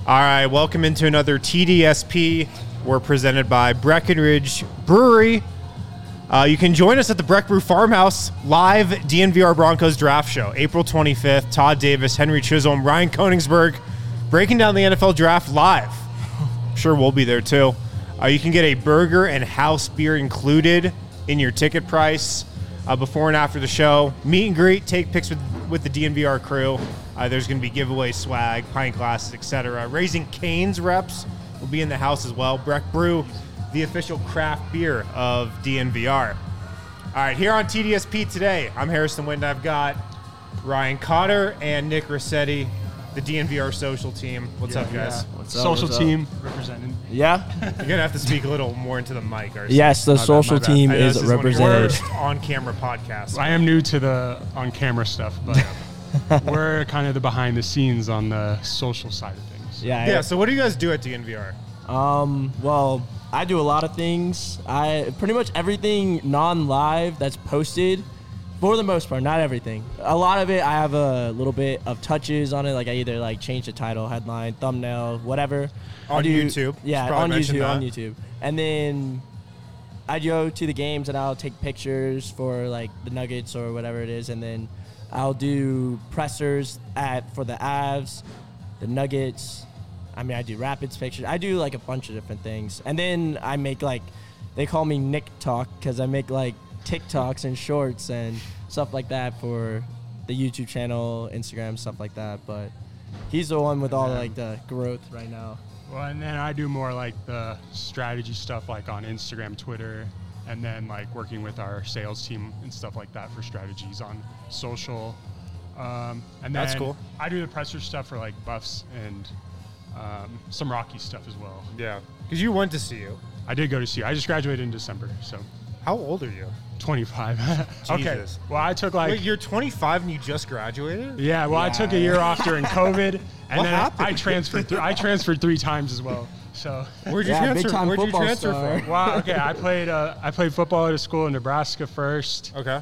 All right, welcome into another TDSP. We're presented by Breckenridge Brewery. You can join us at the Breck Brew Farmhouse live DNVR Broncos draft show, April 25th. Todd Davis, Henry Chisholm, Ryan Koenigsberg, breaking down the NFL draft live. I'm sure we'll be there too. You can get a burger and house beer included in your ticket price before and after the show. Meet and greet, take pics with the DNVR crew. There's going to be giveaway swag, pint glasses, etc. Raising Cane's reps will be in the house as well. Breck Brew, the official craft beer of DNVR. All right, here on TDSP today, I'm Harrison Wind. I've got Ryan Cotter and Nick Rossetti, the DNVR social team. What's up, guys? What's up? Social team representing. Yeah. You're going to have to speak a little more into the mic. Yes, the social team is represented. On-camera podcast. I am new to the on-camera stuff, but we're kind of the behind the scenes on the social side of things. Yeah, so what do you guys do at DNVR? Well, I do a lot of things. Pretty much everything non-live that's posted, for the most part, not everything. A lot of it, I have a little bit of touches on it. Like I either change the title, headline, thumbnail, whatever. On YouTube? Yeah, on YouTube. And then I go to the games and I'll take pictures for the Nuggets or whatever it is, and then I'll do pressers for the Avs, the Nuggets. I do Rapids pictures. I do a bunch of different things. And then I make they call me Nick Talk because I make TikToks and shorts and stuff like that for the YouTube channel, Instagram, stuff like that. But he's the one with all the growth right now. Well, and then I do more the strategy stuff on Instagram, Twitter, and then working with our sales team and stuff like that for strategies on social. And then that's cool. I do the presser stuff for Buffs and some Rocky stuff as well. Yeah, because you went to CU. I did go to CU. I just graduated in December, so. How old are you? 25. Okay. Jesus. Well, I took Wait, you're 25 and you just graduated? Yeah. Well, I took a year off during COVID, and what then happened? I transferred. I transferred 3 times as well. So. Where'd you big time Where'd you football transfer star. from? Well, okay. I played football at a school in Nebraska first. Okay.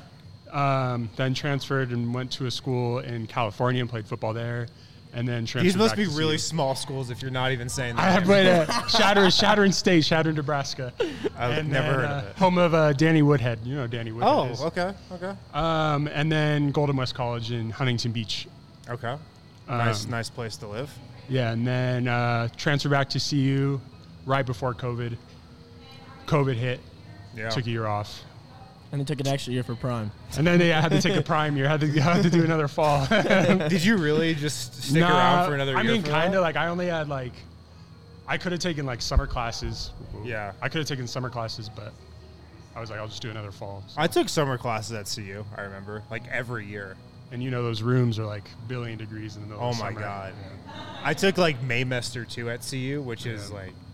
Then transferred and went to a school in California and played football there. And then transferred. These must back be to really CU. small schools if you're not even saying that. I have played at Shattern State, Shattern, Nebraska. I've never heard of it. Home of Danny Woodhead. You know who Danny Woodhead is. Okay. And then Golden West College in Huntington Beach. Okay. Nice place to live. Yeah, and then transferred back to CU right before COVID. COVID hit. Yeah. Took a year off. And they took an extra year for Prime. And then they had to take a prime year. Had to do another fall. Did you really just stick around for another year? I mean, kind of. of. I only had I could have taken summer classes. Yeah. I could have taken summer classes, but I was I'll just do another fall. So. I took summer classes at CU, I remember, every year. And those rooms are billion degrees in the middle of summer. Oh, my God. Yeah. I took, Maymester, too, at CU, which is,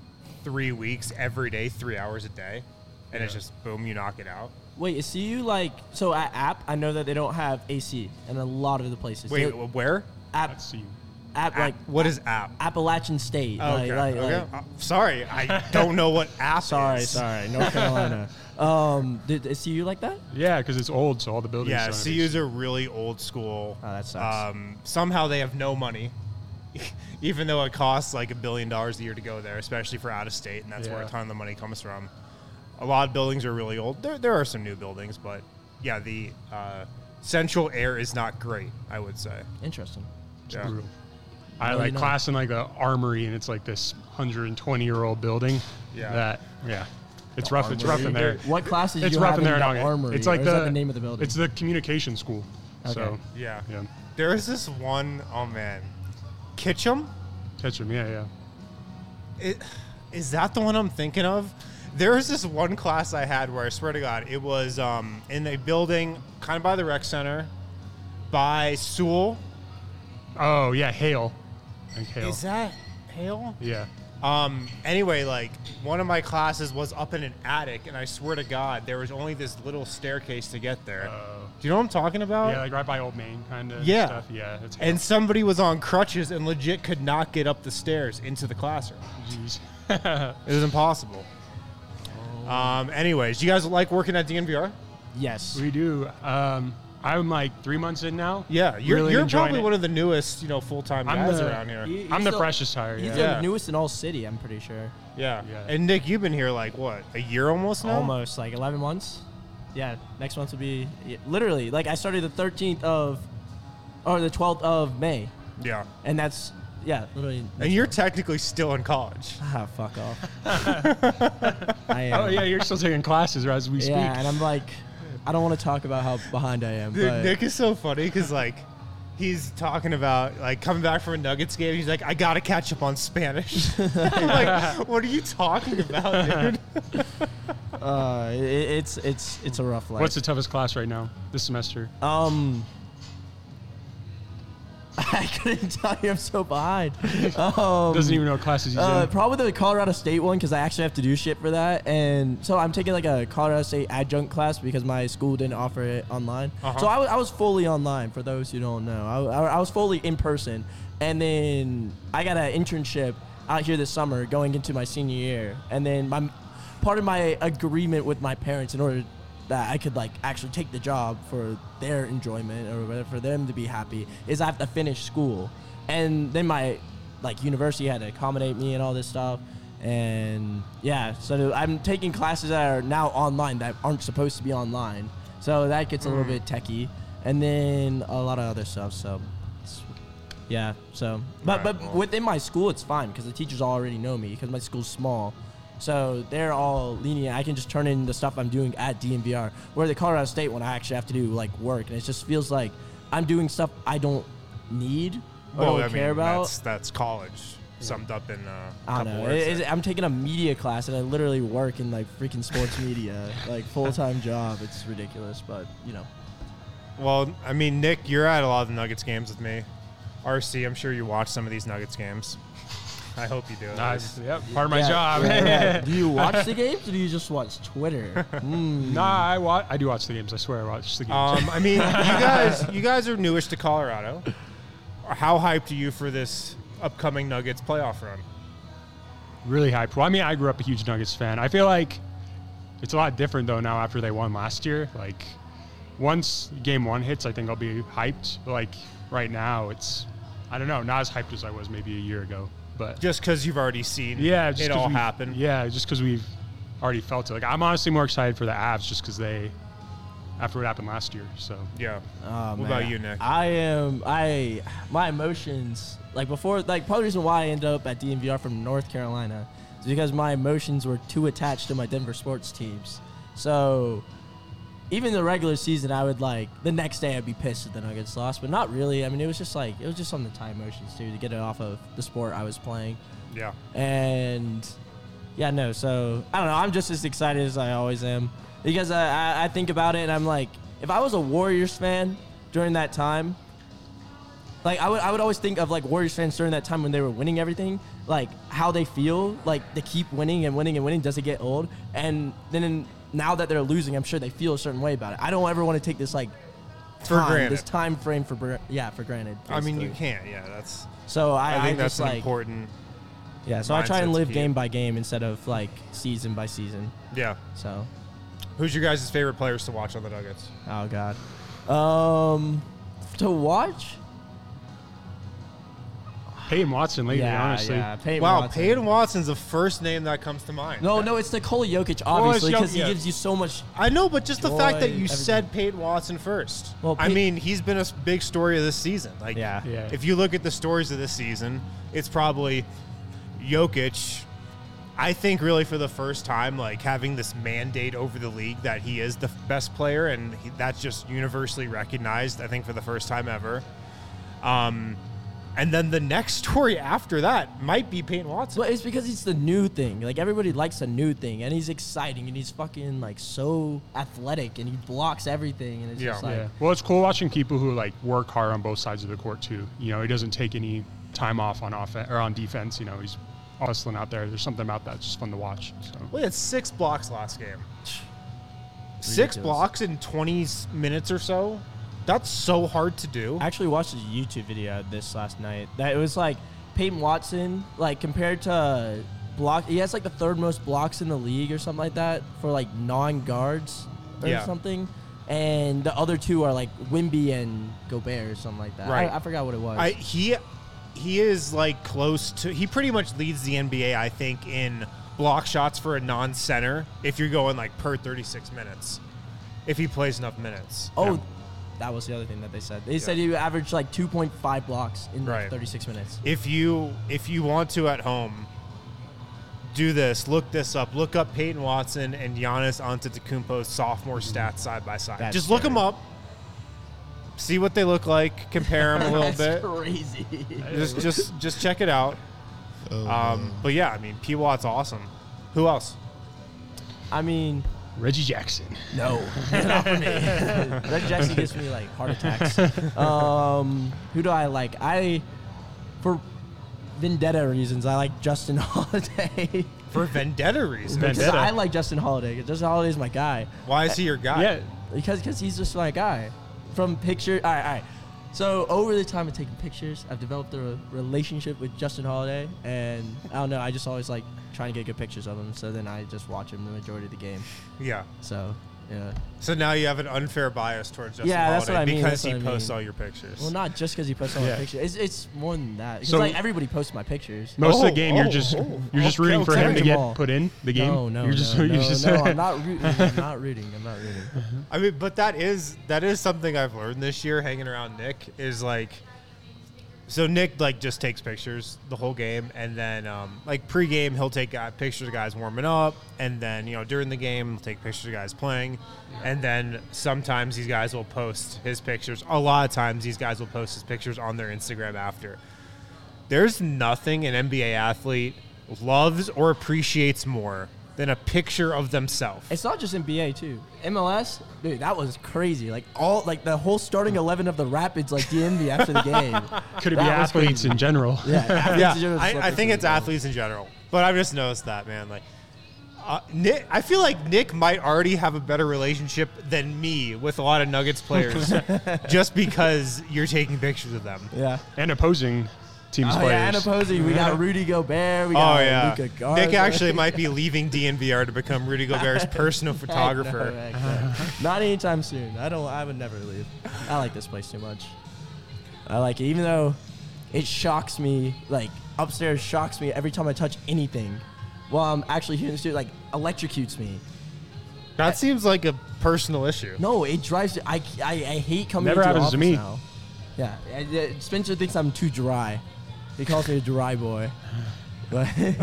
3 weeks, every day, 3 hours a day. And it's just, boom, you knock it out. Wait, is CU so at App, I know that they don't have AC in a lot of the places. Wait, where? App, That's CU. App, what is App? Appalachian State. Okay. Sorry, I don't know what App is. Sorry, North Carolina. Is CU like that? Yeah, because it's old, so all the buildings. Yeah, are CU's a really old school. Oh, that sucks. Somehow they have no money, even though it costs $1 billion a year to go there, especially for out of state, and that's where a ton of the money comes from. A lot of buildings are really old. There are some new buildings, but yeah, the central air is not great, I would say. Interesting. Yeah. Brutal. I had class in the armory, and it's this 120-year-old building. Yeah. It's rough. It's rough in there. What classes It's you rough have in there. the armory? It's or is that the name of the building? It's the communication school. Okay. So Yeah. yeah. There is this one, oh man, Kitchum? Ketchum. Yeah. Is that the one I'm thinking of? There was this one class I had where I swear to God, it was in a building kind of by the rec center, by Sewell. Oh yeah, Hale. I think Hale. Is that Hale? Yeah. Anyway, one of my classes was up in an attic, and I swear to God, there was only this little staircase to get there. Do you know what I'm talking about? Yeah, right by Old Main kind of Yeah. stuff. Yeah. It's Hale. And somebody was on crutches and legit could not get up the stairs into the classroom. Jeez. It was impossible. Anyways, you guys like working at DNVR? Yes. We do. I I'm like 3 months in now. Yeah, you're Really enjoying probably it. one of the newest, full-time I'm guys the- around here. I'm the freshest hire. He's Yeah. the newest in all city, I'm pretty sure. Yeah. Yeah. And Nick, you've been here like what, a year almost now? Almost like 11 months. Yeah, next month will be literally like I started the 13th of, or the 12th of May, Yeah. and that's literally. And you're technically still in college. fuck off. I am. Oh yeah, you're still taking classes as we speak. Yeah, and I'm like, I don't want to talk about how behind I am. Dude, but Nick is so funny because like he's talking about like coming back from a Nuggets game. He's like, I gotta catch up on Spanish. I'm like, what are you talking about, dude? it's a rough life. What's the toughest class right now this semester? I couldn't tell you. I'm so behind. Doesn't even know what classes he's in. Probably the Colorado State one because I actually have to do shit for that, and so I'm taking like a Colorado State adjunct class because my school didn't offer it online. Uh-huh. So I was fully online. For those who don't know, I was fully in person, and then I got an internship out here this summer going into my senior year, and then part of my agreement with my parents in order that I could like actually take the job for their enjoyment or whatever, for them to be happy, is I have to finish school. And then my like university had to accommodate me and all this stuff. And yeah, so I'm taking classes that are now online that aren't supposed to be online. So that gets a little bit techie. And then a lot of other stuff. So yeah, so but within my school it's fine because the teachers already know me because my school's small. So they're all lenient. I can just turn in the stuff I'm doing at DNVR. Where the Colorado State one, I actually have to do like work, and it just feels like I'm doing stuff I don't need or don't care about. That's college summed up in I don't know. I'm taking a media class, and I literally work in like freaking sports media, like full-time job. It's ridiculous, but Well, I mean, Nick, you're at a lot of the Nuggets games with me. RC, I'm sure you watch some of these Nuggets games. I hope you do. Nice. Yep. Part of my Yeah, job. yeah. Do you watch the games, or do you just watch Twitter? Nah, I do watch the games. I swear I watch the games. I mean, you guys are newish to Colorado. How hyped are you for this upcoming Nuggets playoff run? Really hyped. Well, I mean, I grew up a huge Nuggets fan. I feel like it's a lot different, though, now after they won last year. Like, once game one hits, I think I'll be hyped. But, like, right now, it's, I don't know, not as hyped as I was maybe a year ago. But Just because you've already seen just it all 'cause happen. Yeah, just because we've already felt it. Like, I'm honestly more excited for the Avs just because after what happened last year. So, Yeah. Oh, What man. about you, Nick? My emotions, like before, like part of the reason why I ended up at DNVR from North Carolina is because my emotions were too attached to my Denver sports teams. So even the regular season, I would like, the next day I'd be pissed if the Nuggets lost, but not really. I mean, it was just something to tie emotions to get it off of the sport I was playing. Yeah. And yeah, no, so I don't know. I'm just as excited as I always am because I think about it and I'm like, if I was a Warriors fan during that time, like I would always think of like Warriors fans during that time when they were winning everything, like how they feel, like they keep winning and winning and winning. Does it get old? And then now that they're losing, I'm sure they feel a certain way about it. I don't ever want to take this like this time frame for granted. I mean, you basically. can't. Yeah, that's. So I think just that's an like important. yeah. So I try mindset and to live keep. game by game instead of like season by season. Yeah. So Who's your guys' favorite players to watch on the Nuggets? oh god, to watch. Peyton Watson lately, honestly. Yeah, Peyton Wow, Watson. Peyton Watson's the first name that comes to mind. No, it's Nikola Jokic, obviously, it's because he Jokic. gives you so much. I know, but just the fact that Joy, you everything. said Peyton Watson first. Well, I mean, he's been a big story of this season. Like, Yeah. Yeah. if you look at the stories of this season, it's probably Jokic. I think really for the first time, like having this mandate over the league that he is the best player, and that's just universally recognized. I think for the first time ever. And then the next story after that might be Peyton Watson. Well, it's because it's the new thing. Like everybody likes a new thing, and he's exciting, and he's fucking like so athletic, and he blocks everything, and it's Yeah. just like. Yeah. Well, it's cool watching people who like work hard on both sides of the court too. You know, he doesn't take any time off on offense or on defense. You know, he's hustling out there. There's something about that. It's just fun to watch. So. We had 6 blocks last game. 6 Ridiculous. blocks in 20 minutes or so. That's so hard to do. I actually watched a YouTube video of this last night. That it was like Peyton Watson, like compared to block, he has like the third most blocks in the league or something like that for like non-guards or Yeah. something. and the other two are like Wimby and Gobert or something like that. Right. I forgot what it was. He is like close to. He pretty much leads the NBA, I think, in block shots for a non-center. If you're going like per 36 minutes, if he plays enough minutes. Oh, Yeah. that was the other thing that they said. They said you averaged like 2.5 blocks in like 36 minutes. If you want to at home, do this. Look this up. Look up Peyton Watson and Giannis Antetokounmpo's sophomore stats side by side. That's Just look scary. them up. See what they look like. Compare them a little That's bit. crazy. Just check it out. But yeah, I mean, P. Watt's awesome. Who else? I mean, Reggie Jackson. no, not for me. Reggie Jackson gives me like heart attacks. Who do I like? For vendetta reasons, I like Justin Holiday. For vendetta reasons. Because Vendetta. I like Justin Holiday. 'Cause Justin Holiday is my guy. Why is he your guy? Yeah. Because he's just my guy. From picture, all right. So over the time of taking pictures, I've developed a relationship with Justin Holiday, and I don't know. I just always like trying to get good pictures of him. So then I just watch him the majority of the game. Yeah. So yeah. So now you have an unfair bias towards Justin Yeah, that's Holiday what I mean, because that's he what I posts mean. all your pictures. Well, not just because he posts all Yeah. my pictures. It's more than that. Because So- like everybody posts my pictures. Most of Oh, the game, you're oh, just oh. you're rooting for Okay, him to Jamal. get put in the game. No, You're just, no, you're just I'm not rooting. I'm not rooting. I mean, but that is something I've learned this year hanging around Nick is like, so Nick like just takes pictures the whole game, and then like pregame he'll take pictures of guys warming up, and then during the game he'll take pictures of guys playing, and then sometimes these guys will post his pictures. A lot of times these guys will post his pictures on their Instagram after. There's nothing an NBA athlete loves or appreciates more than a picture of themselves. It's not just NBA too. MLS, dude, that was crazy. Like the whole starting 11 of the Rapids like DM'd me after the game. could it be That was athletes crazy. in general? Yeah, athletes in general just love I think pictures it's of them. athletes in general, but I've just noticed that, man. Like, Nick, I feel like Nick might already have a better relationship than me with a lot of Nuggets players, just because you're taking pictures of them. Yeah. And opposing teams Oh players. yeah, and opposing, we got Rudy Gobert. We got Oh yeah, Luka Garza. Nick actually might be leaving DNVR to become Rudy Gobert's personal Heck photographer. no, heck no. Not anytime soon. I would never leave. I like this place too much. I like it, even though it shocks me. Like upstairs shocks me every time I touch anything. While I'm actually here in the studio, like electrocutes me. That seems like a personal issue. No, it drives. I hate coming Never into the happens to office me. now. Yeah, Spencer thinks I'm too dry. He calls me a dry boy. But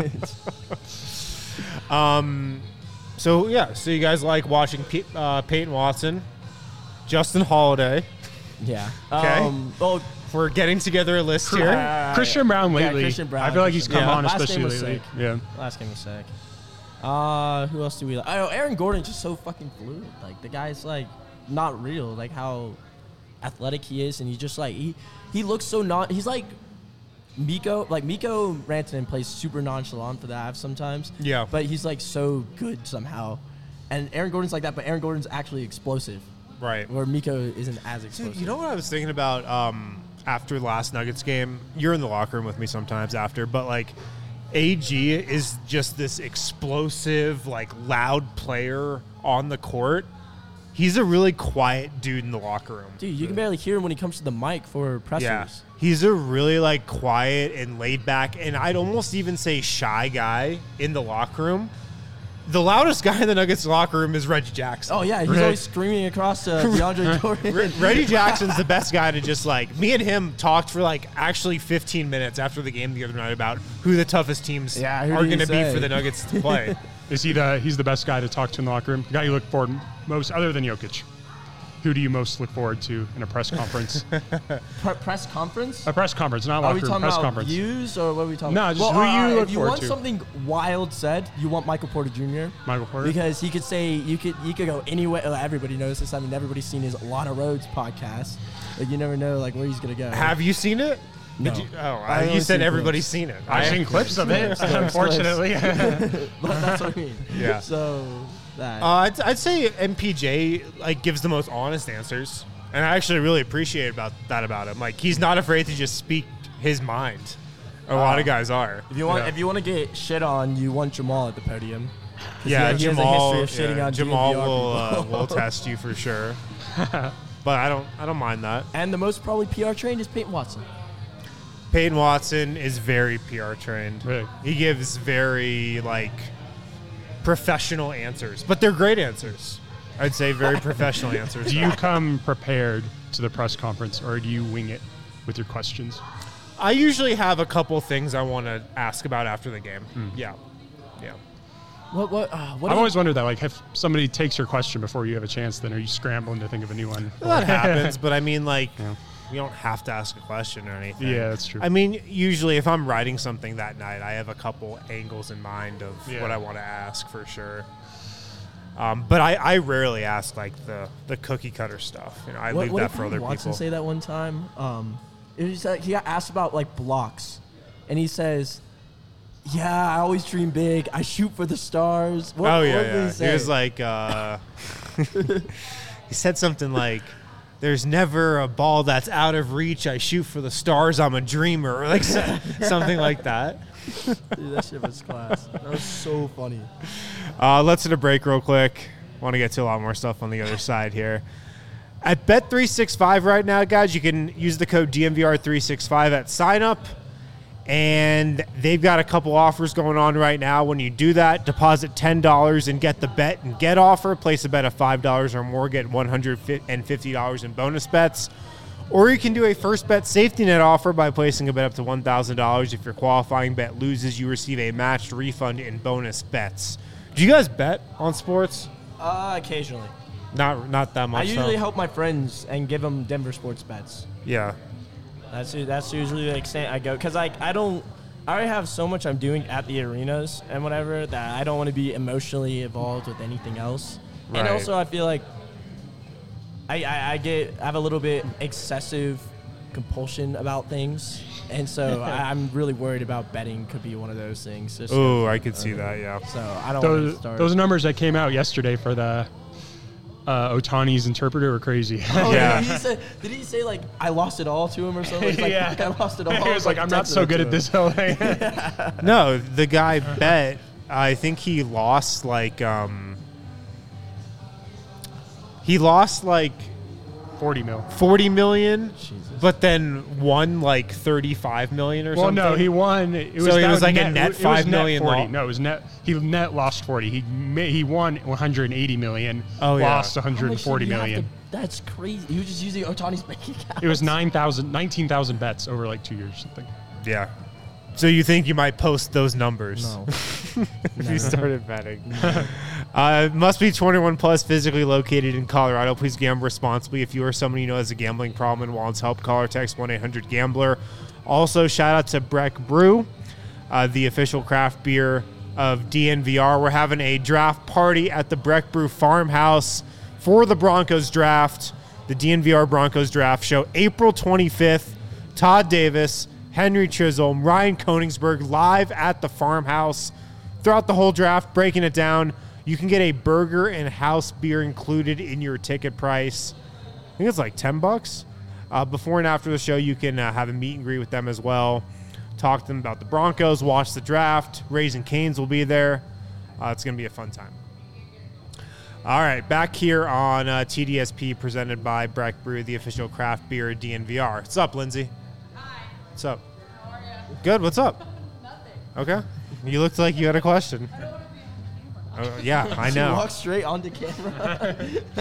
So you guys like watching Peyton Watson, Justin Holiday. yeah. Okay. Well, We're getting together a list here. Christian Brown lately. Christian Brown, I feel like he's Christian come Brown. on, Last game especially was lately. sick. Yeah. last game was sick. Who else do we like? Oh, Aaron Gordon's just so fucking fluid. Like the guy's like not real. Like how athletic he is, and he just like he looks so not. He's like Miko. Like Miko Rantanen plays super nonchalant for the Avs sometimes. Yeah. But he's like so good somehow. And Aaron Gordon's like that, but Aaron Gordon's actually explosive. Right. Where Miko isn't as explosive. Dude, you know what I was thinking about after last Nuggets game? You're in the locker room with me sometimes after, but like AG is just this explosive, like loud player on the court. He's a really quiet dude in the locker room. Dude, you can barely hear him when he comes to the mic for pressers. Yeah. He's a really like quiet and laid back, and I'd almost even say shy guy in the locker room. The loudest guy in the Nuggets locker room is Reggie Jackson. Oh, yeah. He's Right? always screaming across DeAndre Jordan. Reggie Jackson's the best guy to just like, me and him talked for like actually 15 minutes after the game the other night about who the toughest teams Yeah, who are did he going to be say? for the Nuggets to play. He's the best guy to talk to in the locker room? The guy you look forward most, other than Jokic. Who do you most look forward to in a press conference? Press conference? A press conference, not Are locker we room, talking press about conference. views or what are we talking No, about? just who you look if you forward want to. something wild said, you want Michael Porter Jr. Michael Porter? Because he could say, you could go anywhere. Everybody knows this. I mean, everybody's seen his Lana Rhodes podcast. Like, you never know like where he's going to go. Have you seen it? No. Did you, I you only said seen everybody's clips. seen it. I've seen clips of it, Clips. unfortunately. But that's what I mean. Yeah. So, that. I'd say MPJ like gives the most honest answers, and I actually really appreciate about him. Like he's not afraid to just speak his mind. A lot of guys are. if you want Yeah. if you want to get shit on, you want Jamal at the podium. 'Cause Yeah, he has a Jamal. history of shitting on Jamal DNVR will people. will test you for sure. But I don't mind that. And the most probably PR trained is Peyton Watson. Peyton Watson is very PR trained. Really? He gives very professional answers, but they're great answers. I'd say very professional answers. Do you come prepared to the press conference, or do you wing it with your questions? I usually have a couple things I want to ask about after the game. Yeah. What I've always wondered that, like, if somebody takes your question before you have a chance, then are you scrambling to think of a new one? Well, that happens, but I mean, you don't have to ask a question or anything. Yeah, that's true. I mean, usually if I'm writing something that night, I have a couple angles in mind of what I want to ask for sure. But I rarely ask the cookie cutter stuff. I leave that for other Watson people. Say that one time. It was he got asked about blocks, and he says, "Yeah, I always dream big. I shoot for the stars." What did he say? He was like, he said something like, "There's never a ball that's out of reach. I shoot for the stars. I'm a dreamer," or something like that. Dude, that shit was class. That was so funny. Let's hit a break real quick. Want to get to a lot more stuff on the other side here. At Bet365 right now, guys, you can use the code DNVR365 at sign up. And they've got a couple offers going on right now. When you do that, deposit $10 and get the bet and get offer. Place a bet of $5 or more, get $150 in bonus bets. Or you can do a first bet safety net offer by placing a bet up to $1,000. If your qualifying bet loses, you receive a matched refund in bonus bets. Do you guys bet on sports? Occasionally. Not that much. I usually help my friends and give them Denver sports bets. Yeah. That's usually the extent I go, because I already have so much I'm doing at the arenas and whatever that I don't want to be emotionally involved with anything else. Right. And also I feel like I have a little bit excessive compulsion about things, and so I'm really worried about betting could be one of those things. Oh, I could see that. Yeah. So I don't want to start. Those numbers that came out yesterday for the Otani's interpreter were crazy. Oh, yeah. Did he say I lost it all to him or something? He's like, Yeah. "Fuck, I lost it all." He was like, I'm not so good at this whole thing. No, the guy bet. I think he lost he lost 40 mil. 40 million, Jesus. but then won 35 million or Well, something. no, he won. It was So it that was like a net, net it was 5 net million 40. loss? No, it was net. He net lost 40. He won 180 million. Oh, yeah. Lost How much 140 did he have million. to- that's crazy. He was just using Otani's bank account. It was 19,000 bets over 2 years or something. Yeah. So you think you might post those numbers? No. If you started betting. Must be 21 plus, physically located in Colorado. Please gamble responsibly. If you or someone you know has a gambling problem and wants help, call or text 1-800-GAMBLER. Also, shout out to Breck Brew, the official craft beer of DNVR. We're having a draft party at the Breck Brew Farmhouse for the Broncos draft, the DNVR Broncos draft show, April 25th. Todd Davis, Henry Chisholm, Ryan Koenigsberg live at the farmhouse throughout the whole draft, breaking it down. You can get a burger and house beer included in your ticket price. I think it's $10. Before and after the show, you can have a meet and greet with them as well. Talk to them about the Broncos, watch the draft. Raising Cane's will be there. It's going to be a fun time. All right, back here on TDSP presented by Breck Brew, the official craft beer of DNVR. What's up, Lindsay? What's up? How are you? Good. What's up? Nothing. Okay. You looked like you had a question. I don't want to be in the camera. Yeah, I She know. walked straight onto camera.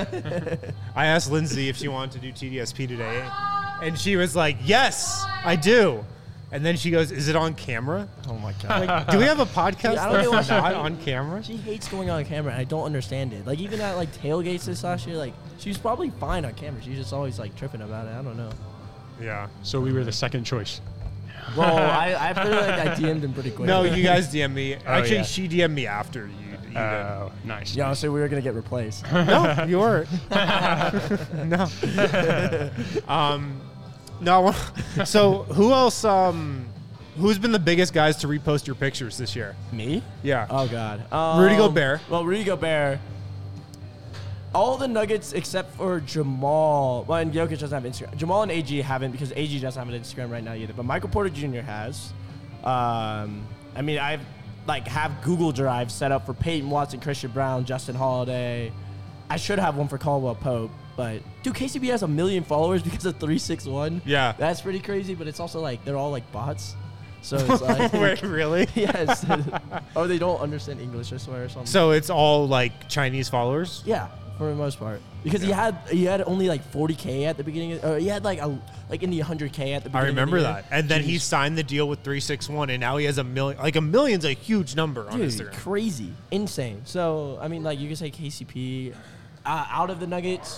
I asked Lindsay if she wanted to do TDSP today, and she was like, "Yes, I do." And then she goes, "Is it on camera?" Oh my god. Like, do we have a podcast Yeah, I don't know that's why not she- on camera? She hates going on camera, and I don't understand it. Even at tailgates this last year, she was probably fine on camera. She's just always tripping about it. I don't know. Yeah. So we were the second choice. Well, I feel like I DM'd him pretty quick. No, you guys DM me. Actually, yeah. she DM'd me after you did. Oh, nice. Yeah, so we were gonna get replaced. No, you weren't. No. No. So who else? Who's been the biggest guys to repost your pictures this year? Me? Yeah. Oh god. Rudy Gobert. Well, Rudy Gobert. All the Nuggets except for Jamal. Well, and Jokic doesn't have Instagram. Jamal and AG haven't because AG doesn't have an Instagram right now either. But Michael Porter Jr. has. I mean, I've have Google Drive set up for Peyton Watson, Christian Brown, Justin Holiday. I should have one for Caldwell Pope. But dude, KCP has 1 million followers because of 361. Yeah. That's pretty crazy. But it's also like they're all like bots. So it's like Wait, really? yes. Or they don't understand English, I swear, or something. So it's all like Chinese followers? Yeah, for the most part, because he had only like 40K at the beginning. He had like in the 100K at the beginning. I remember of the year. that. And then he Jeez. signed the deal with 361, and now he has 1 million. Like, 1 million's a huge number on Dude, Instagram. crazy, insane. So I mean, like you could say KCP out of the Nuggets.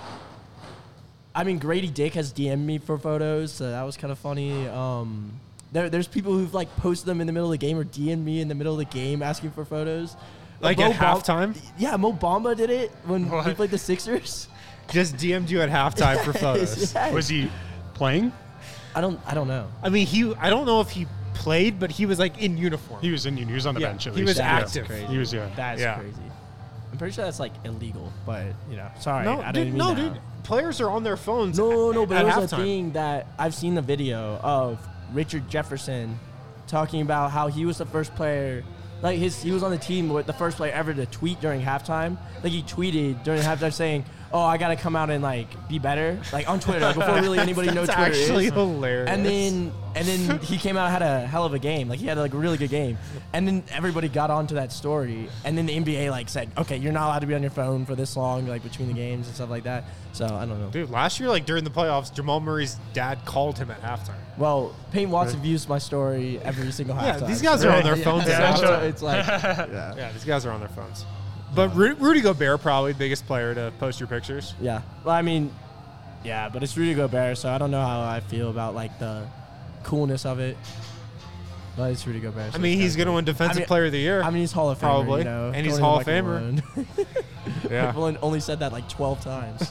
I mean, Grady Dick has DM'd me for photos, so that was kind of funny. There's people who've like posted them in the middle of the game or DM'd me in the middle of the game asking for photos. Like Mo at halftime? Yeah, Mo Bamba did it when he What? played the Sixers. Just DM'd you at halftime for photos. Yes. Was he playing? I don't know. I mean, I don't know if he played, but he was like in uniform. He was in. He was on the Yeah, bench. At he least. was Yeah. active. Crazy. He was. Yeah. That's Yeah. crazy. I'm pretty sure that's like illegal, but sorry. No, I dude, didn't no, mean that. dude. Players are on their phones. No, but at there was halftime. a thing that I've seen a video of Richard Jefferson talking about how he was the first player, like he was on the team with the first player ever to tweet during halftime. Like he tweeted during halftime saying, "Oh, I gotta come out and like be better," like on Twitter before really anybody knows That's Twitter actually is. hilarious. And then he came out and had a hell of a game. Like he had like a really good game. And then everybody got onto that story. And then the NBA like said, okay, you're not allowed to be on your phone for this long, like between the games and stuff like that. So I don't know. Dude, last year, like during the playoffs, Jamal Murray's dad called him at halftime. Well, Peyton Watson views my story every single Yeah, halftime. these guys are on their phones. Yeah, So sure. it's like, yeah. Yeah, these guys are on their phones. But Rudy Gobert, probably the biggest player to post your pictures. Yeah. Well, I mean, yeah, but it's Rudy Gobert, so I don't know how I feel about like the coolness of it. But it's Rudy Gobert. so I mean, it's he's kinda going to win Defensive Player of the Year. I mean, he's Hall of Famer, Probably. you know, And he's Tony Hall of Michael Famer. Malone. yeah. People only said that like 12 times.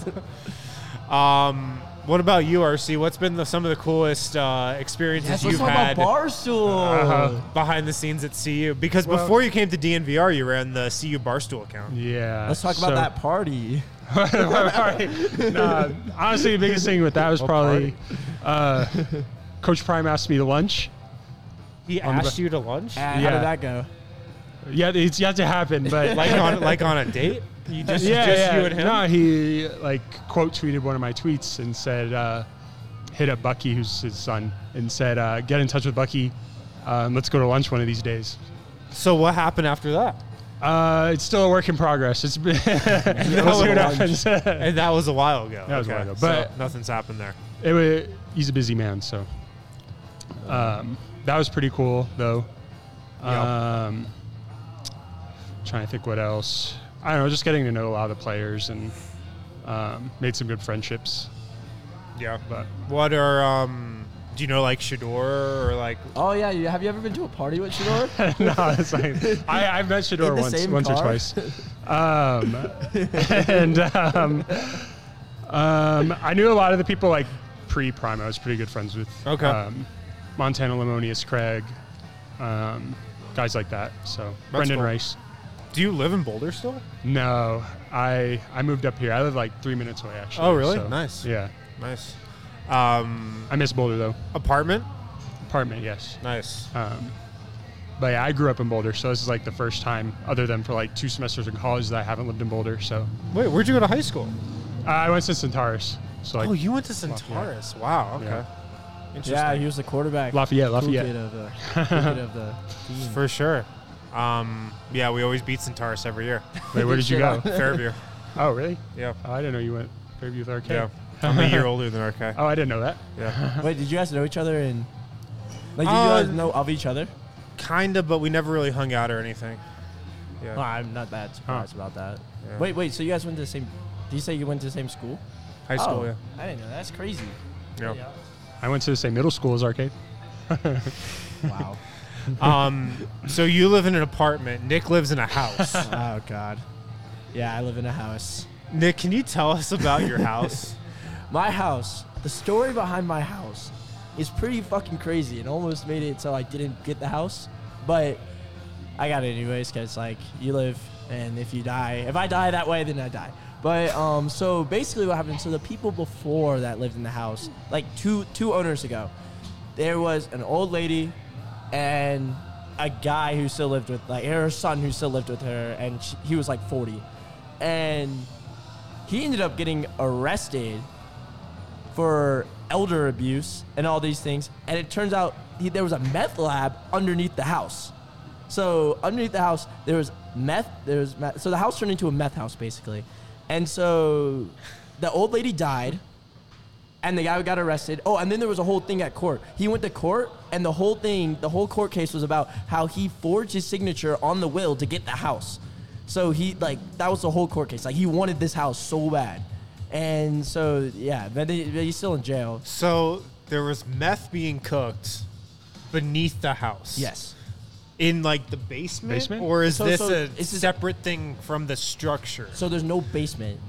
What about you, RC? What's been some of the coolest experiences Yes, let's you've talk had about Barstool. behind the scenes at CU? Because before you came to DNVR, you ran the CU Barstool account. Yeah. Let's talk about that party. Nah, honestly, the biggest thing with that was probably Coach Prime asked me to lunch. He On the asked you to lunch? How Yeah. did that go? Yeah, it's yet to happen, but like on a date? You just you and him? No, he like quote tweeted one of my tweets and said, hit up Bucky, who's his son, and said, get in touch with Bucky. Let's go to lunch one of these days. So what happened after that? It's still a work in progress. It's been we'll was see what lunch. happens. And that was a while ago. That was a while ago, So but- nothing's happened there. He's a busy man, so that was pretty cool, though. Trying to think what else. I don't know, just getting to know a lot of the players and made some good friendships. Yeah. But What are do you know like Shador or like Oh, yeah. Have you ever been to a party with Shador? no, it's like I've met Shador In the once same or car? twice. I knew a lot of the people like pre-Prime. I was pretty good friends with. Okay. Montana Lemonius, Craig, guys like that. So Brendan cool. Rice. do you live in Boulder still? No, I moved up here. I live like 3 minutes away, actually. Oh, really? so, Nice. Yeah. Nice. I miss Boulder, though. Apartment? Apartment, yes. Nice. But yeah, I grew up in Boulder, so this is like the first time, other than for like 2 semesters in college, that I haven't lived in Boulder. So Wait, where'd you go to high school? I went to Centaurus. So like Oh, you went to Centaurus. Wow, okay. Yeah. Interesting. Yeah, he was the quarterback. Lafayette. Cool kid of the team. For sure. Yeah, we always beat Centaurus every year. Wait, where did you go? Fairview. Oh, really? Yeah. Oh, I didn't know you went Fairview with RK. Yeah. I'm a year older than RK. Oh, I didn't know that. Yeah. Wait, did you guys know each other? And like, did you guys know of each other? Kinda, but we never really hung out or anything. Yeah. Well, I'm not that surprised about that. Yeah. Wait, so you guys went to the same? Did you say you went to the same school? High school, Oh, I didn't know. That's crazy. yeah. I went to the same middle school as Arcade. Wow. So you live in an apartment. Nick lives in a house. Oh God. Yeah, I live in a house. Nick, can you tell us about your house? My house. The story behind my house is pretty fucking crazy. It almost made it so I didn't get the house, but I got it anyways because like you live, and if you die, if I die that way, then I die. But so basically what happened? So the people before that lived in the house, like two owners ago, there was an old lady and a guy who still lived with, like, her son who still lived with her, and he was like 40, and he ended up getting arrested for elder abuse and all these things. And it turns out there was a meth lab underneath the house. So underneath the house, there was meth. So the house turned into a meth house, basically. And so the old lady died, and the guy got arrested. Oh, and then there was a whole thing at court. He went to court, and the whole court case was about how he forged his signature on the will to get the house. So that was the whole court case. Like, he wanted this house so bad. And so, yeah, but he's still in jail. So there was meth being cooked beneath the house. Yes. In like the basement? Or is this a separate thing from the structure? So there's no basement.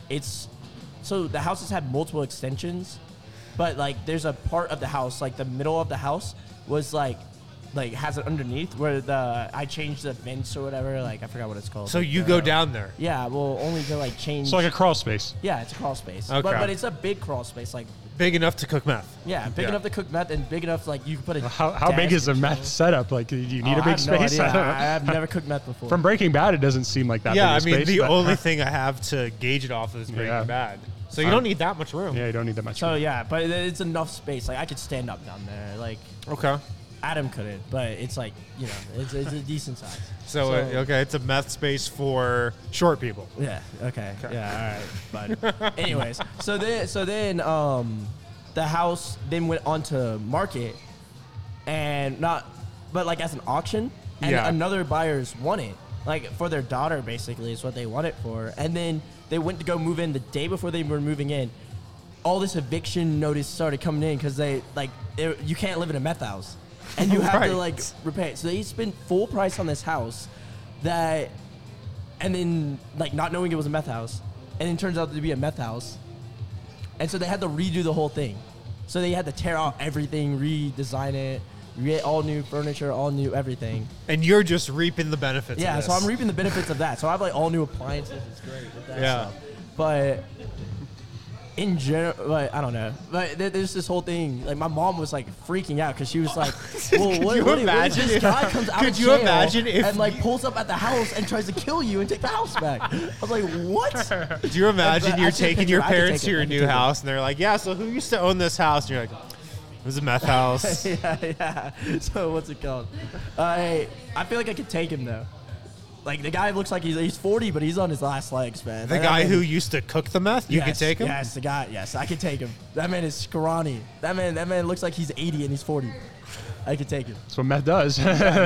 So the house has had multiple extensions, but like there's a part of the house, like the middle of the house was like has it underneath where I changed the vents or whatever. Like, I forgot what it's called. So you go down there? Yeah, well, only to like change. It's like a crawl space. Yeah, it's a crawl space. Okay. But it's a big crawl space, like. Big enough to cook meth. Yeah, big enough to cook meth and big enough like you can put a. How big is a meth setup? Like, do you need a big space? No idea. I have never cooked meth before. From Breaking Bad, it doesn't seem like that big a space. Yeah, I mean, the only thing I have to gauge it off is Breaking Bad. So you don't need that much room. Yeah, you don't need that much So room. yeah, but it's enough space. Like, I could stand up down there. Like, Okay. Adam couldn't, but it's like, it's a decent size. So okay, it's a meth space for short people. Yeah. Okay. Yeah. All right. But anyways, so then the house then went onto market, and but like as an auction, and another buyers want it, like for their daughter basically is what they want it for, and then they went to go move in the day before they were moving in. All this eviction notice started coming in because you can't live in a meth house. And you have to like repay it. So they spent full price on this house and then like not knowing it was a meth house. And then turns out to be a meth house. And so they had to redo the whole thing. So they had to tear out everything, redesign it, get all new furniture, all new everything. And you're just reaping the benefits of this. Yeah, so I'm reaping the benefits of that. So I have like all new appliances. It's great with that stuff. But in general, like, I don't know. But there's this whole thing. Like, my mom was like freaking out because she was like, "Well, what if this guy comes out of jail and like pulls up at the house and tries to kill you and take the house back?" I was like, "What?" Do you imagine you're taking your parents to your new house and they're like, "Yeah, so who used to own this house?" And you're like, "It was a meth house." yeah. So what's it called? I feel like I could take him though. Like, the guy looks like he's 40, but he's on his last legs, man. The guy who used to cook the meth, you could take him? Yes, the guy. Yes, I could take him. That man is scrawny. That man looks like he's 80 and he's 40. I could take him. That's what meth does.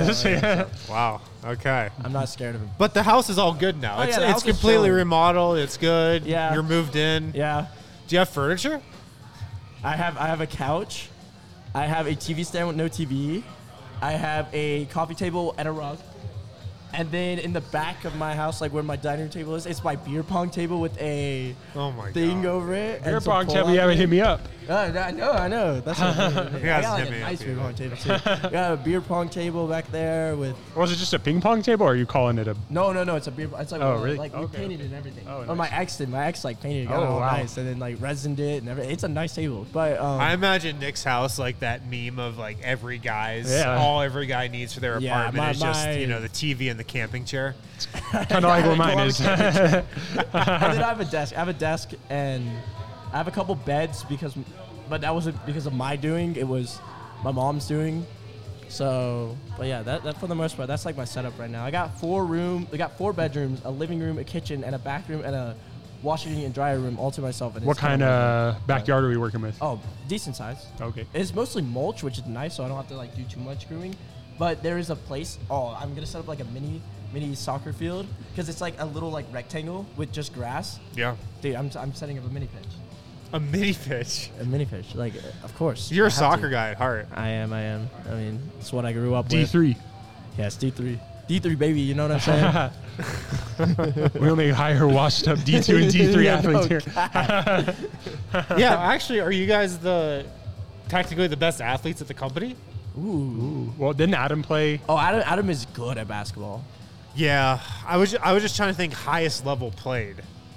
Wow. Okay. I'm not scared of him. But the house is all good now. It's completely remodeled. It's good. Yeah. You're moved in. Yeah. Do you have furniture? I have a couch. I have a TV stand with no TV. I have a coffee table and a rug. And then in the back of my house, like where my dining room table is, it's my beer pong table with a thing over it. Beer pong table, you haven't hit me up. I know. That's what I mean. I got like a nice beer pong table too. I got a beer pong table back there with. Was it just a ping pong table, or are you calling it a? No. It's a beer. It's like really? Like we painted it and everything. Oh, nice. Or my ex did. My ex like painted it. Oh, wow. Nice, and then like resined it and everything. It's a nice table. But I imagine Nick's house like that meme of like every guy needs for their apartment is just the TV and the camping chair. Kind of like what mine is. And then I have a desk. I have a couple beds but that wasn't because of my doing. It was my mom's doing. So, but yeah, that for the most part, that's like my setup right now. I got 4 bedrooms, a living room, a kitchen, and a bathroom, and a washing and dryer room all to myself. And what kind of backyard are we working with? Oh, decent size. Okay. It's mostly mulch, which is nice, so I don't have to like do too much grooming. But there is a place. Oh, I'm gonna set up like a mini soccer field because it's like a little like rectangle with just grass. Yeah. Dude, I'm setting up a mini pitch. A mini pitch. A mini pitch, like of course. You're a soccer guy at heart. I am. I mean, it's what I grew up with. D3. Yes, D3. D3 baby. You know what I'm saying? We only hire washed up D2 and D3 athletes here. Yeah, actually, are you guys technically the best athletes at the company? Ooh. Well, didn't Adam play? Oh, Adam is good at basketball. Yeah, I was just trying to think highest level played.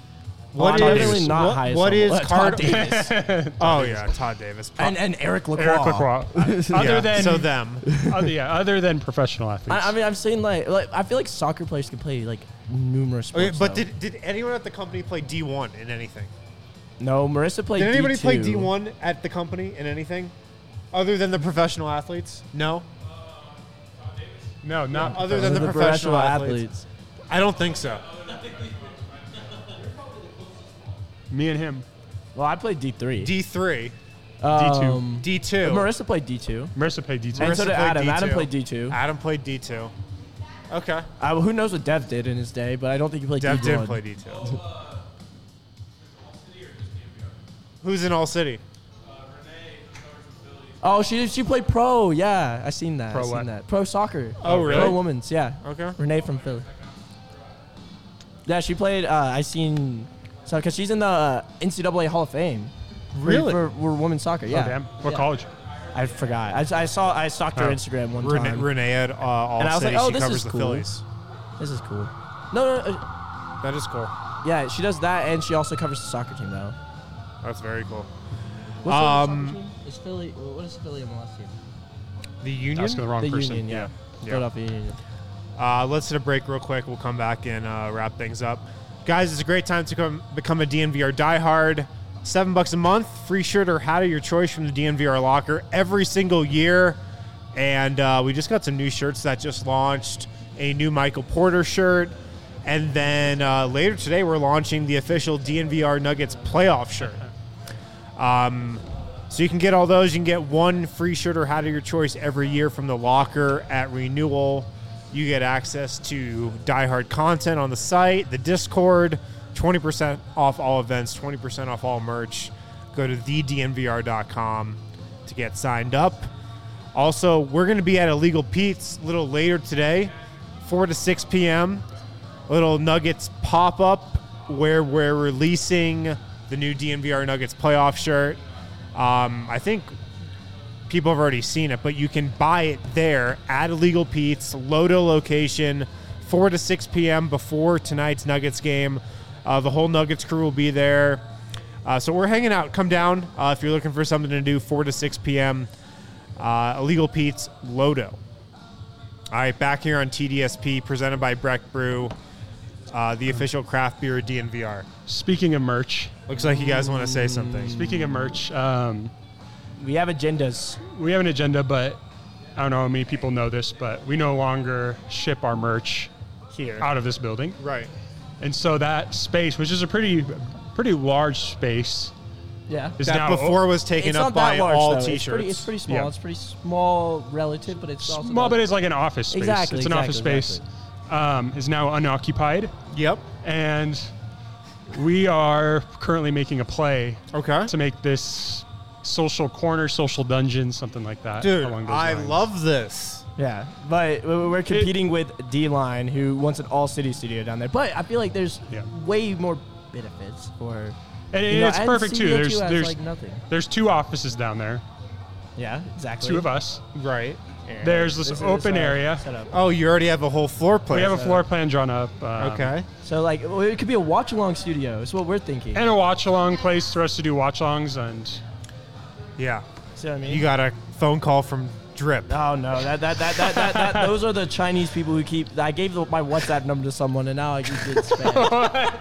What I'm is- definitely not what- highest what level. is Todd Card- Davis Oh yeah, Todd Davis. and Eric Lacroix. Eric Lacroix. Other Yeah, than so them. other than professional athletes. I mean, I'm saying like I feel like soccer players can play like numerous sports. Okay, but though. did anyone at the company play D1 in anything? No, Marissa played. Did anybody D2. play D1 at the company in anything, other than the professional athletes? No. no, not Other than the professional athletes. I don't think so. me and him. Well, I played D3. D3, D2. D2. Marissa played D2. Marissa played D2. And so Marissa did played Adam. D2. Adam played D2. Adam played D2. Okay. Who knows what Dev did in his day, but I don't think he played Dev D1. did play D2. Who's in All City? Oh, she played pro. Yeah, I seen that. Pro I seen what? that. Pro soccer. Oh, really? Pro women's. Yeah. Okay. Renee from Philly. Yeah, she played. I seen. So, because she's in the NCAA Hall of Fame. Really? For women's soccer. Yeah. Oh, damn. What Yeah. college? I forgot. I stalked her Oh. Instagram one Renee, time. Renee at All And I was City. like, oh, she this covers is the cool. Phillies. This is cool. No. That is cool. Yeah, she does that, and she also covers the soccer team though. That's very cool. What's the soccer team? Is Philly? What is Philly MLS team? The Union. Asking the wrong The person. Union. Yeah. Yeah. Philadelphia Union. Let's hit a break real quick. We'll come back and wrap things up. Guys, it's a great time to become a DNVR diehard. $7 a month, free shirt or hat of your choice from the DNVR locker every single year. And we just got some new shirts that just launched. A new Michael Porter shirt. And then later today, we're launching the official DNVR Nuggets playoff shirt. So you can get all those. You can get one free shirt or hat of your choice every year from the locker at renewal. You get access to diehard content on the site, the Discord, 20% off all events, 20% off all merch. Go to thednvr.com to get signed up. Also, we're going to be at Illegal Pete's a little later today, 4 to 6 p.m. A little Nuggets pop-up where we're releasing the new DNVR Nuggets playoff shirt. I think people have already seen it, but you can buy it there at Illegal Pete's, Lodo location, 4 to 6 p.m. before tonight's Nuggets game. The whole Nuggets crew will be there. So we're hanging out. Come down if you're looking for something to do, 4 to 6 p.m. Illegal Pete's, Lodo. All right, back here on TDSP, presented by Breck Brew, the official craft beer of DNVR. Speaking of merch, Looks like you guys want to say something. speaking of merch, We have agendas. we have an agenda, but I don't know how many people know this, but we no longer ship our merch Here. out of this building. Right. And so that space, which is a pretty large space, Yeah. is That now before was taken It's up not by that large, all though. T-shirts. It's pretty small. Yeah. It's pretty small relative, but it's also small, but it's like an office space. Exactly, It's an office space. Is now unoccupied, Yep. and we are currently making a play Okay. to make this social corner, social dungeon, something like that. Dude, along those I lines. love this. Yeah, but we're competing with D-Line, who wants an all-city studio down there. But I feel like there's Yeah. way more benefits for. And you know, it's and perfect too. Studio There's 2 has, there's like nothing. there's 2 offices down there, Yeah, exactly. 2 of us. Right. There's this open area. Setup. Oh, you already have a whole floor plan. We have a floor plan drawn up. Okay. So like, it could be a watch-along studio. That's what we're thinking. And a watch along place for us to do watch alongs and Yeah. See what I mean? You got a phone call from Drip. Oh no! That those are the Chinese people who keep. I gave my WhatsApp number to someone, and now I keep getting spam.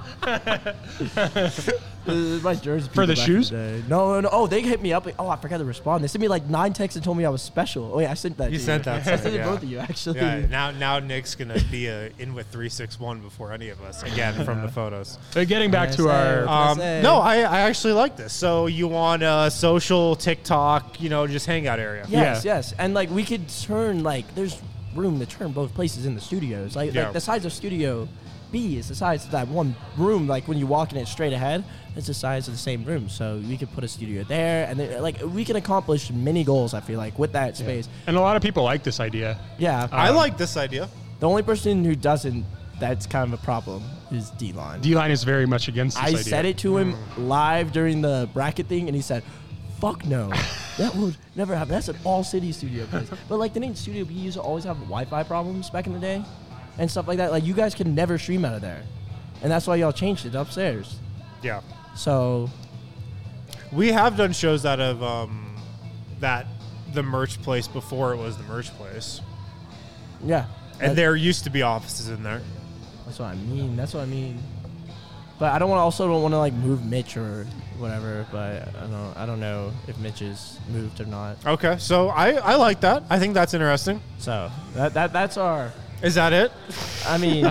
My jersey For the people back shoes? in the day. No. Oh, they hit me up. Oh, I forgot to respond. They sent me like 9 texts and told me I was special. Oh yeah, I sent that. You to sent that I to sent me, it to yeah. both of you actually. Yeah. Now Nick's gonna be in with 361 before any of us again from the photos. but getting back to Yes, our sir. Say. No, I actually like this. So you want a social TikTok, just hangout area. Yes, Yeah. yes, and like we could turn there's room to turn both places in the studios. Like Yeah. the size of Studio B is the size of that one room. Like when you walk in it straight ahead, it's the size of the same room. So we could put a studio there, and then, we can accomplish many goals. I feel like with that space. and a lot of people like this idea. Yeah, I like this idea. the only person who doesn't, that's kind of a problem, is D-Line. D-Line is very much against this I idea. said it to him live during the bracket thing, and he said, "Fuck no, that would never happen. That's an all-city studio place." But didn't Studio B used to always have Wi-Fi problems back in the day, and stuff like that? Like you guys can never stream out of there. and that's why y'all changed it upstairs. Yeah. So We have done shows out of the merch place before it was the merch place. yeah, And there used to be offices in there. that's what I mean. That's what I mean. But I don't want to like move Mitch or whatever. But I don't know if Mitch is moved or not. Okay, so I like that. I think that's interesting. So that's our. Is that it? I mean,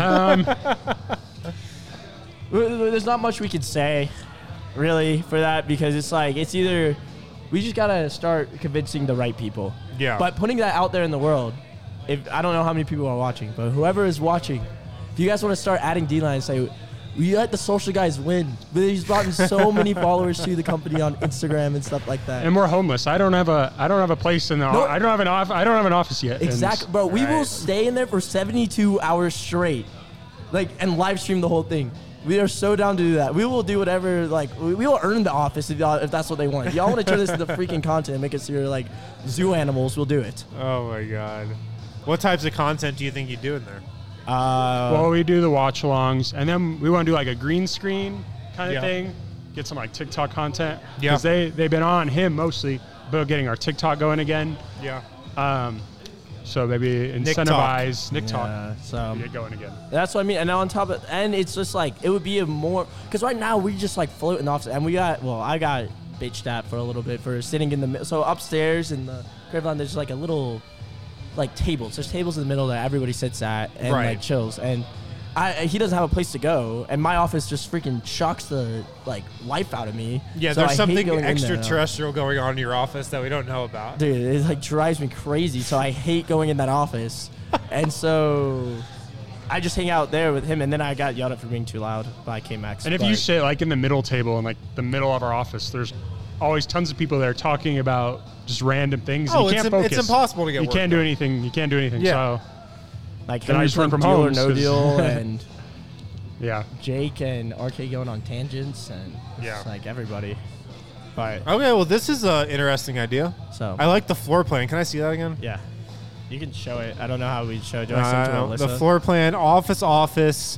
there's not much we could say, really, for that because it's like it's either we just gotta start convincing the right people. Yeah. But putting that out there in the world, if I don't know how many people are watching, but whoever is watching, if you guys want to start adding D-Line and say, we let the social guys win. But he's brought in so many followers to the company on Instagram and stuff like that. And we're homeless. I don't have a place in the. No. I don't have an office yet. Exactly, bro. We will Right. stay in there for 72 hours straight, and live stream the whole thing. We are so down to do that. We will do whatever. We will earn the office if that's what they want. If y'all want to turn this into freaking content and make us your zoo animals, we'll do it. Oh my god. What types of content do you think you do in there? Well, we do the watch-alongs, and then we want to do a green screen kind Yeah. of thing. Get some TikTok content. Yeah. Because they've been on him mostly, but getting our TikTok going again. Yeah. So maybe incentivize Nick Talk. Yeah, so Get going again. that's what I mean. And on top of, and it's just it would be a more because right now we just float in the office, and I got bitched at for a little bit for sitting in the middle. So upstairs in the crib line, there's a little tables. There's tables in the middle that everybody sits at and Right. chills. And he doesn't have a place to go, and my office just freaking shocks the life out of me. Yeah, So I there's hate something going in there. extraterrestrial going on in your office that we don't know about. Dude, it drives me crazy. So I hate going in that office, and so I just hang out there with him. And then I got yelled at for being too loud by K-Max. And if you sit in the middle table in the middle of our office, there's always tons of people there talking about just random things. Oh, and you can't focus. it's impossible to get You work can't do done. anything. You can't do anything. Yeah. So then I Henry just work from from Deal or home, No 'cause- Deal, and yeah. Jake and RK going on tangents, and Yeah. it's everybody. But Okay, well, this is an interesting idea. so I like the floor plan. Can I see that again? yeah, you can show it. I don't know how we'd show it. Do I send it to Alyssa? The floor plan, office,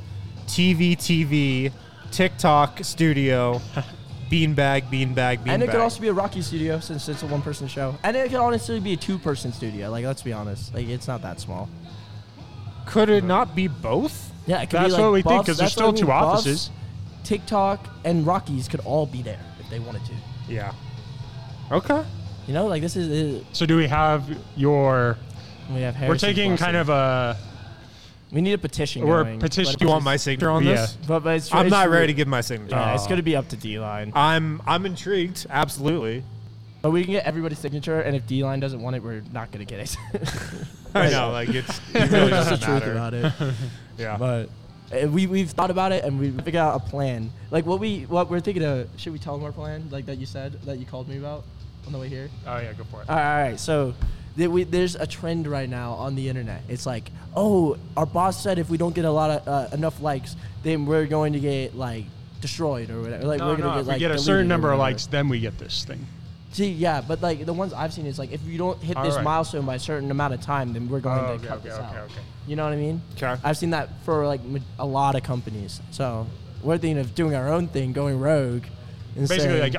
TV, TikTok, studio, beanbag. And it could also be a Rocky studio since it's a one-person show. And it could honestly be a two-person studio. Let's be honest. It's not that small. Could it not be both? Yeah, it could That's be what we think, Buffs- 'cause there's that's what I still two mean, Buffs, offices. TikTok and Rockies could all be there if they wanted to. Yeah. Okay. This is So do we have your? we have We're Harrison taking kind Blessing. of a. We need a petition. We're going, petition- Do you want my signature on Yeah. this? But it's, I'm it's not really- ready to give my signature. Yeah, it's going to be up to D-Line. I'm intrigued. Absolutely. But we can get everybody's signature, and if D-Line doesn't want it, we're not going to get it. I know. It really That's the doesn't truth matter. about it. Yeah. But we've thought about it, and we figured out a plan. What we're thinking of. Should we tell them our plan? That you said that you called me about on the way here. Oh yeah, go for it. All right. So there's a trend right now on the internet. It's oh, our boss said if we don't get a lot of enough likes, then we're going to get destroyed or whatever. We're No, gonna if get we get a deleted certain or number of whatever. likes, then we get this thing. See, yeah, but the ones I've seen is if you don't hit All this right. milestone by a certain amount of time, then we're going Oh, to cut this out. okay. You know what I mean? Okay. I've seen that for a lot of companies. So we're thinking of doing our own thing, going rogue. And Basically, saying,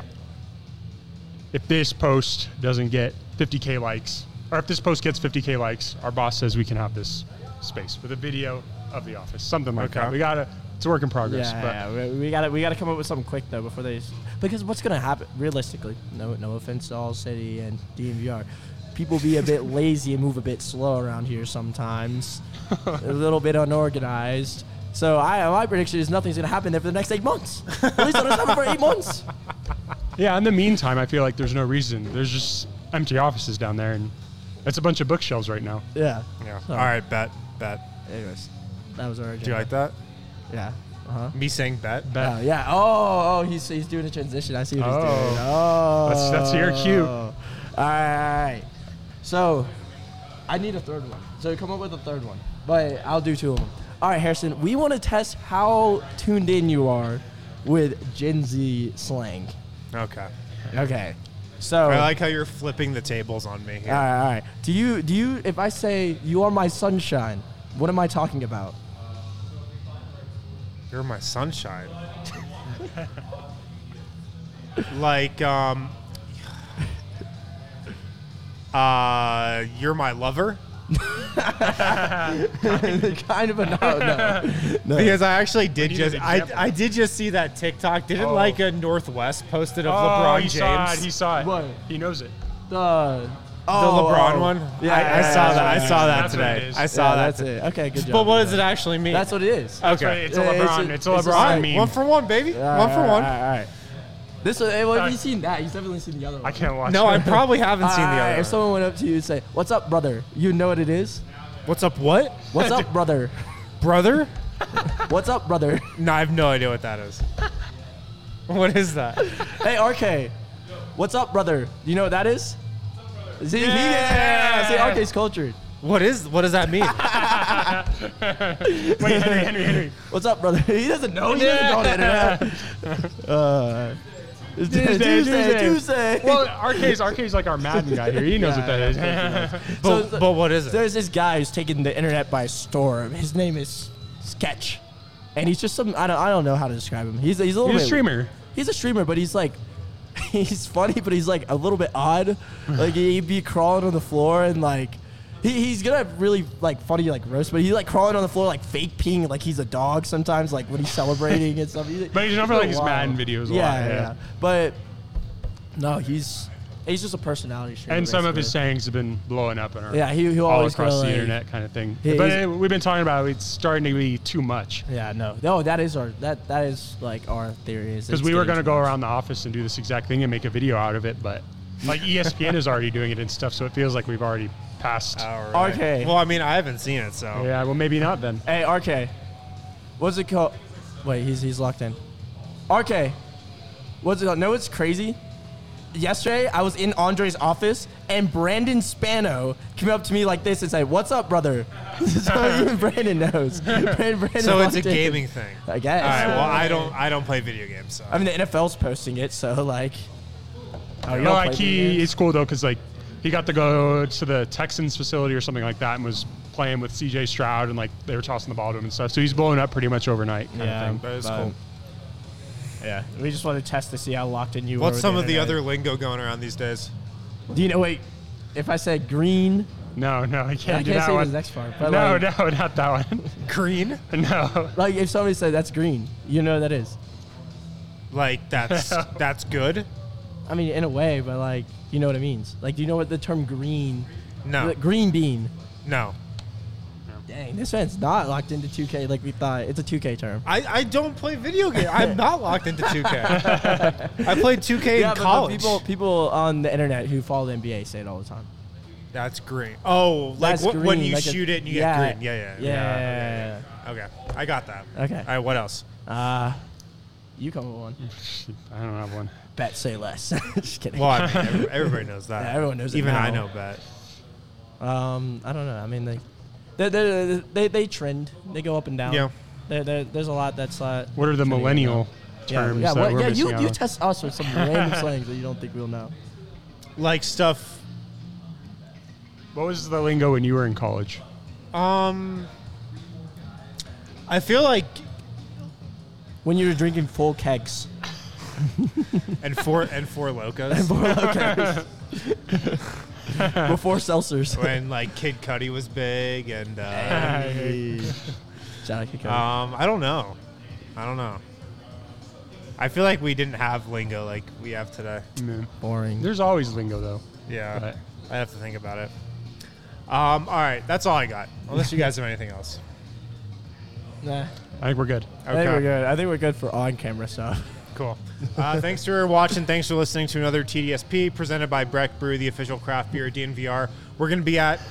if this post doesn't get 50K likes, or if this post gets 50K likes, our boss says we can have this space with a video of the office, something like Okay. that. It's a work in progress. yeah, we gotta come up with something quick though before because what's gonna happen realistically? No offense to All City and DMVR, people be a bit lazy and move a bit slow around here sometimes, a little bit unorganized. So my prediction is nothing's gonna happen there for the next 8 months. At least it doesn't happen for 8 months. Yeah, in the meantime, I feel like there's no reason. There's just empty offices down there, and it's a bunch of bookshelves right now. Yeah. Yeah. So- All right. Bet. Anyways, that was our agenda. Do you like that? Yeah. Uh-huh. Me saying bet? Oh, yeah. Oh, he's doing a transition. I see what he's doing. Oh. Oh. That's your cue. All right. So, I need a third one. So, come up with a third one. But I'll do 2 of them. All right, Harrison. We want to test how tuned in you are with Gen Z slang. Okay. Okay. So, I like how you're flipping the tables on me here. all right. Do you, if I say, you are my sunshine, what am I talking about? You're my sunshine. Like, you're my lover. Kind of a no. Because I actually did need just, an example. I did just see that TikTok. Didn't Oh. like a Northwest posted of Oh, LeBron he James. saw it. He saw it. What? He knows it. The LeBron one? Yeah, I saw that. I saw that That's what it today. is. I saw that. That's it. Okay, good job. But what good does it job. actually mean? That's what it is. okay. Right, it's a Yeah, LeBron. It's a it's a LeBron sign. meme. 1 for 1, baby. 1 for 1. All right. This one, well, have you seen that? You've definitely seen the other one. I can't watch No, it. I probably haven't seen the Alright, other If one. someone went up to you and say, "What's up, brother?" You know what it is? What's up, what? What's up, brother? Brother? What's up, brother? No, I have no idea what that is. What is that? Hey, RK. What's up, brother? Do you know what that is? See, Yeah. See, RK's cultured. What does that mean? Wait, Henry. What's up, brother? He doesn't know. He doesn't know the internet. It's Tuesday. Well, RK's like our Madden guy here. He knows what that is. But what is it? There's this guy who's taking the internet by storm. His name is Sketch, and he's just some. I don't know how to describe him. He's a little He's bit a streamer. He's a streamer, but he's like, he's funny, but he's like a little bit odd. Like he'd be crawling on the floor and like, he's gonna have really like funny like roast, but he's like crawling on the floor like fake peeing like he's a dog sometimes, like when he's celebrating and stuff. But he's never like his wild. Madden videos a Yeah, lot. yeah. But no, he's just a personality streamer. And some of his basically. sayings have been blowing up in our Yeah, he'll all always across go, the like- internet kind of thing. Yeah, But he's- we've been talking about it's starting to be too much. Yeah, no, that is our that is like our theory is Because we were going to go around the office and do this exact thing and make a video out of it, but like ESPN is already doing it and stuff, so it feels like we've already passed. Alright. RK. Well, I mean, I haven't seen it, so. Yeah, well, maybe not then. Hey, RK. What's it called? Wait, he's locked in. RK. What's it called? No, it's crazy. Yesterday, I was in Andre's office, and Brandon Spano came up to me like this and said, "What's up, brother?" So even Brandon knows. Brandon So it's a locked in. gaming thing. I guess. All right. Well, I don't play video games, so. I mean, the NFL's posting it, so like. Oh, you No, don't like play video games? it's cool though, because like he got to go to the Texans facility or something like that and was playing with CJ Stroud and like they were tossing the ball to him and stuff. So he's blowing up pretty much overnight kind of thing. That is but- cool. Yeah, we just want to test to see how locked in you What's were. some of the internet. other lingo going around these days? Do you know? Wait, if I said green, No, I I can't do can't that say one. the next part. But No, like, no, not that one. Green? No. like if somebody said that's green, you know what that is. Like, that's good? I mean, in a way, but like you know what it means. Like, do you know what the term green? No. Like, green bean. No. Dang, this man's not locked into 2K like we thought. It's a 2K term. I don't play video games. I'm not locked into 2K. I played 2K in but college. people on the internet who follow the NBA say it all the time. That's green. Oh, like That's when green, you like a- shoot it and you yeah. get green. Yeah. Yeah. Okay, I got that. Okay. All right, what else? You come with one. I don't have one. Bet say less. Just kidding. Well, I mean, everybody knows that. Yeah, everyone knows it Even I now. know bet. I don't know. I mean, they trend. They go up and down. Yeah. There's a lot that's. What are the trending millennial terms Yeah, that we're yeah. missing out You on? test us with some random slangs that you don't think we'll know. Like stuff. What was the lingo when you were in college? I feel like When you were drinking full kegs. and four locos Before seltzers. when like Kid Cudi was big and Shout out to Kid Cudi. I don't know. I feel like we didn't have lingo like we have today. Man. Boring. There's always lingo though. Yeah, But- I have to think about it. All right, that's all I got. Unless you guys have anything else. Nah. I think we're good. I think we're good. I think we're good for on-camera stuff. Cool. Thanks for watching. Thanks for listening to another TDSP presented by Breck Brew, the official craft beer DNVR. We're going to be at...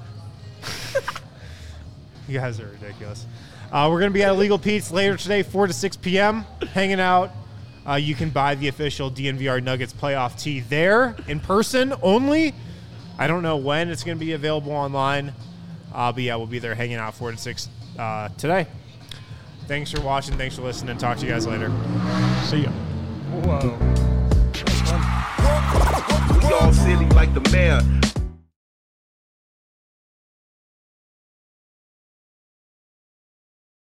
You guys are ridiculous. We're going to be at Illegal Pete's later today, 4 to 6 p.m., hanging out. You can buy the official DNVR Nuggets playoff tee there in person only. I don't know when it's going to be available online. But yeah, we'll be there hanging out 4 to 6 today. Thanks for watching. Thanks for listening. Talk to you guys later. See ya. Whoa. We all silly like the mayor.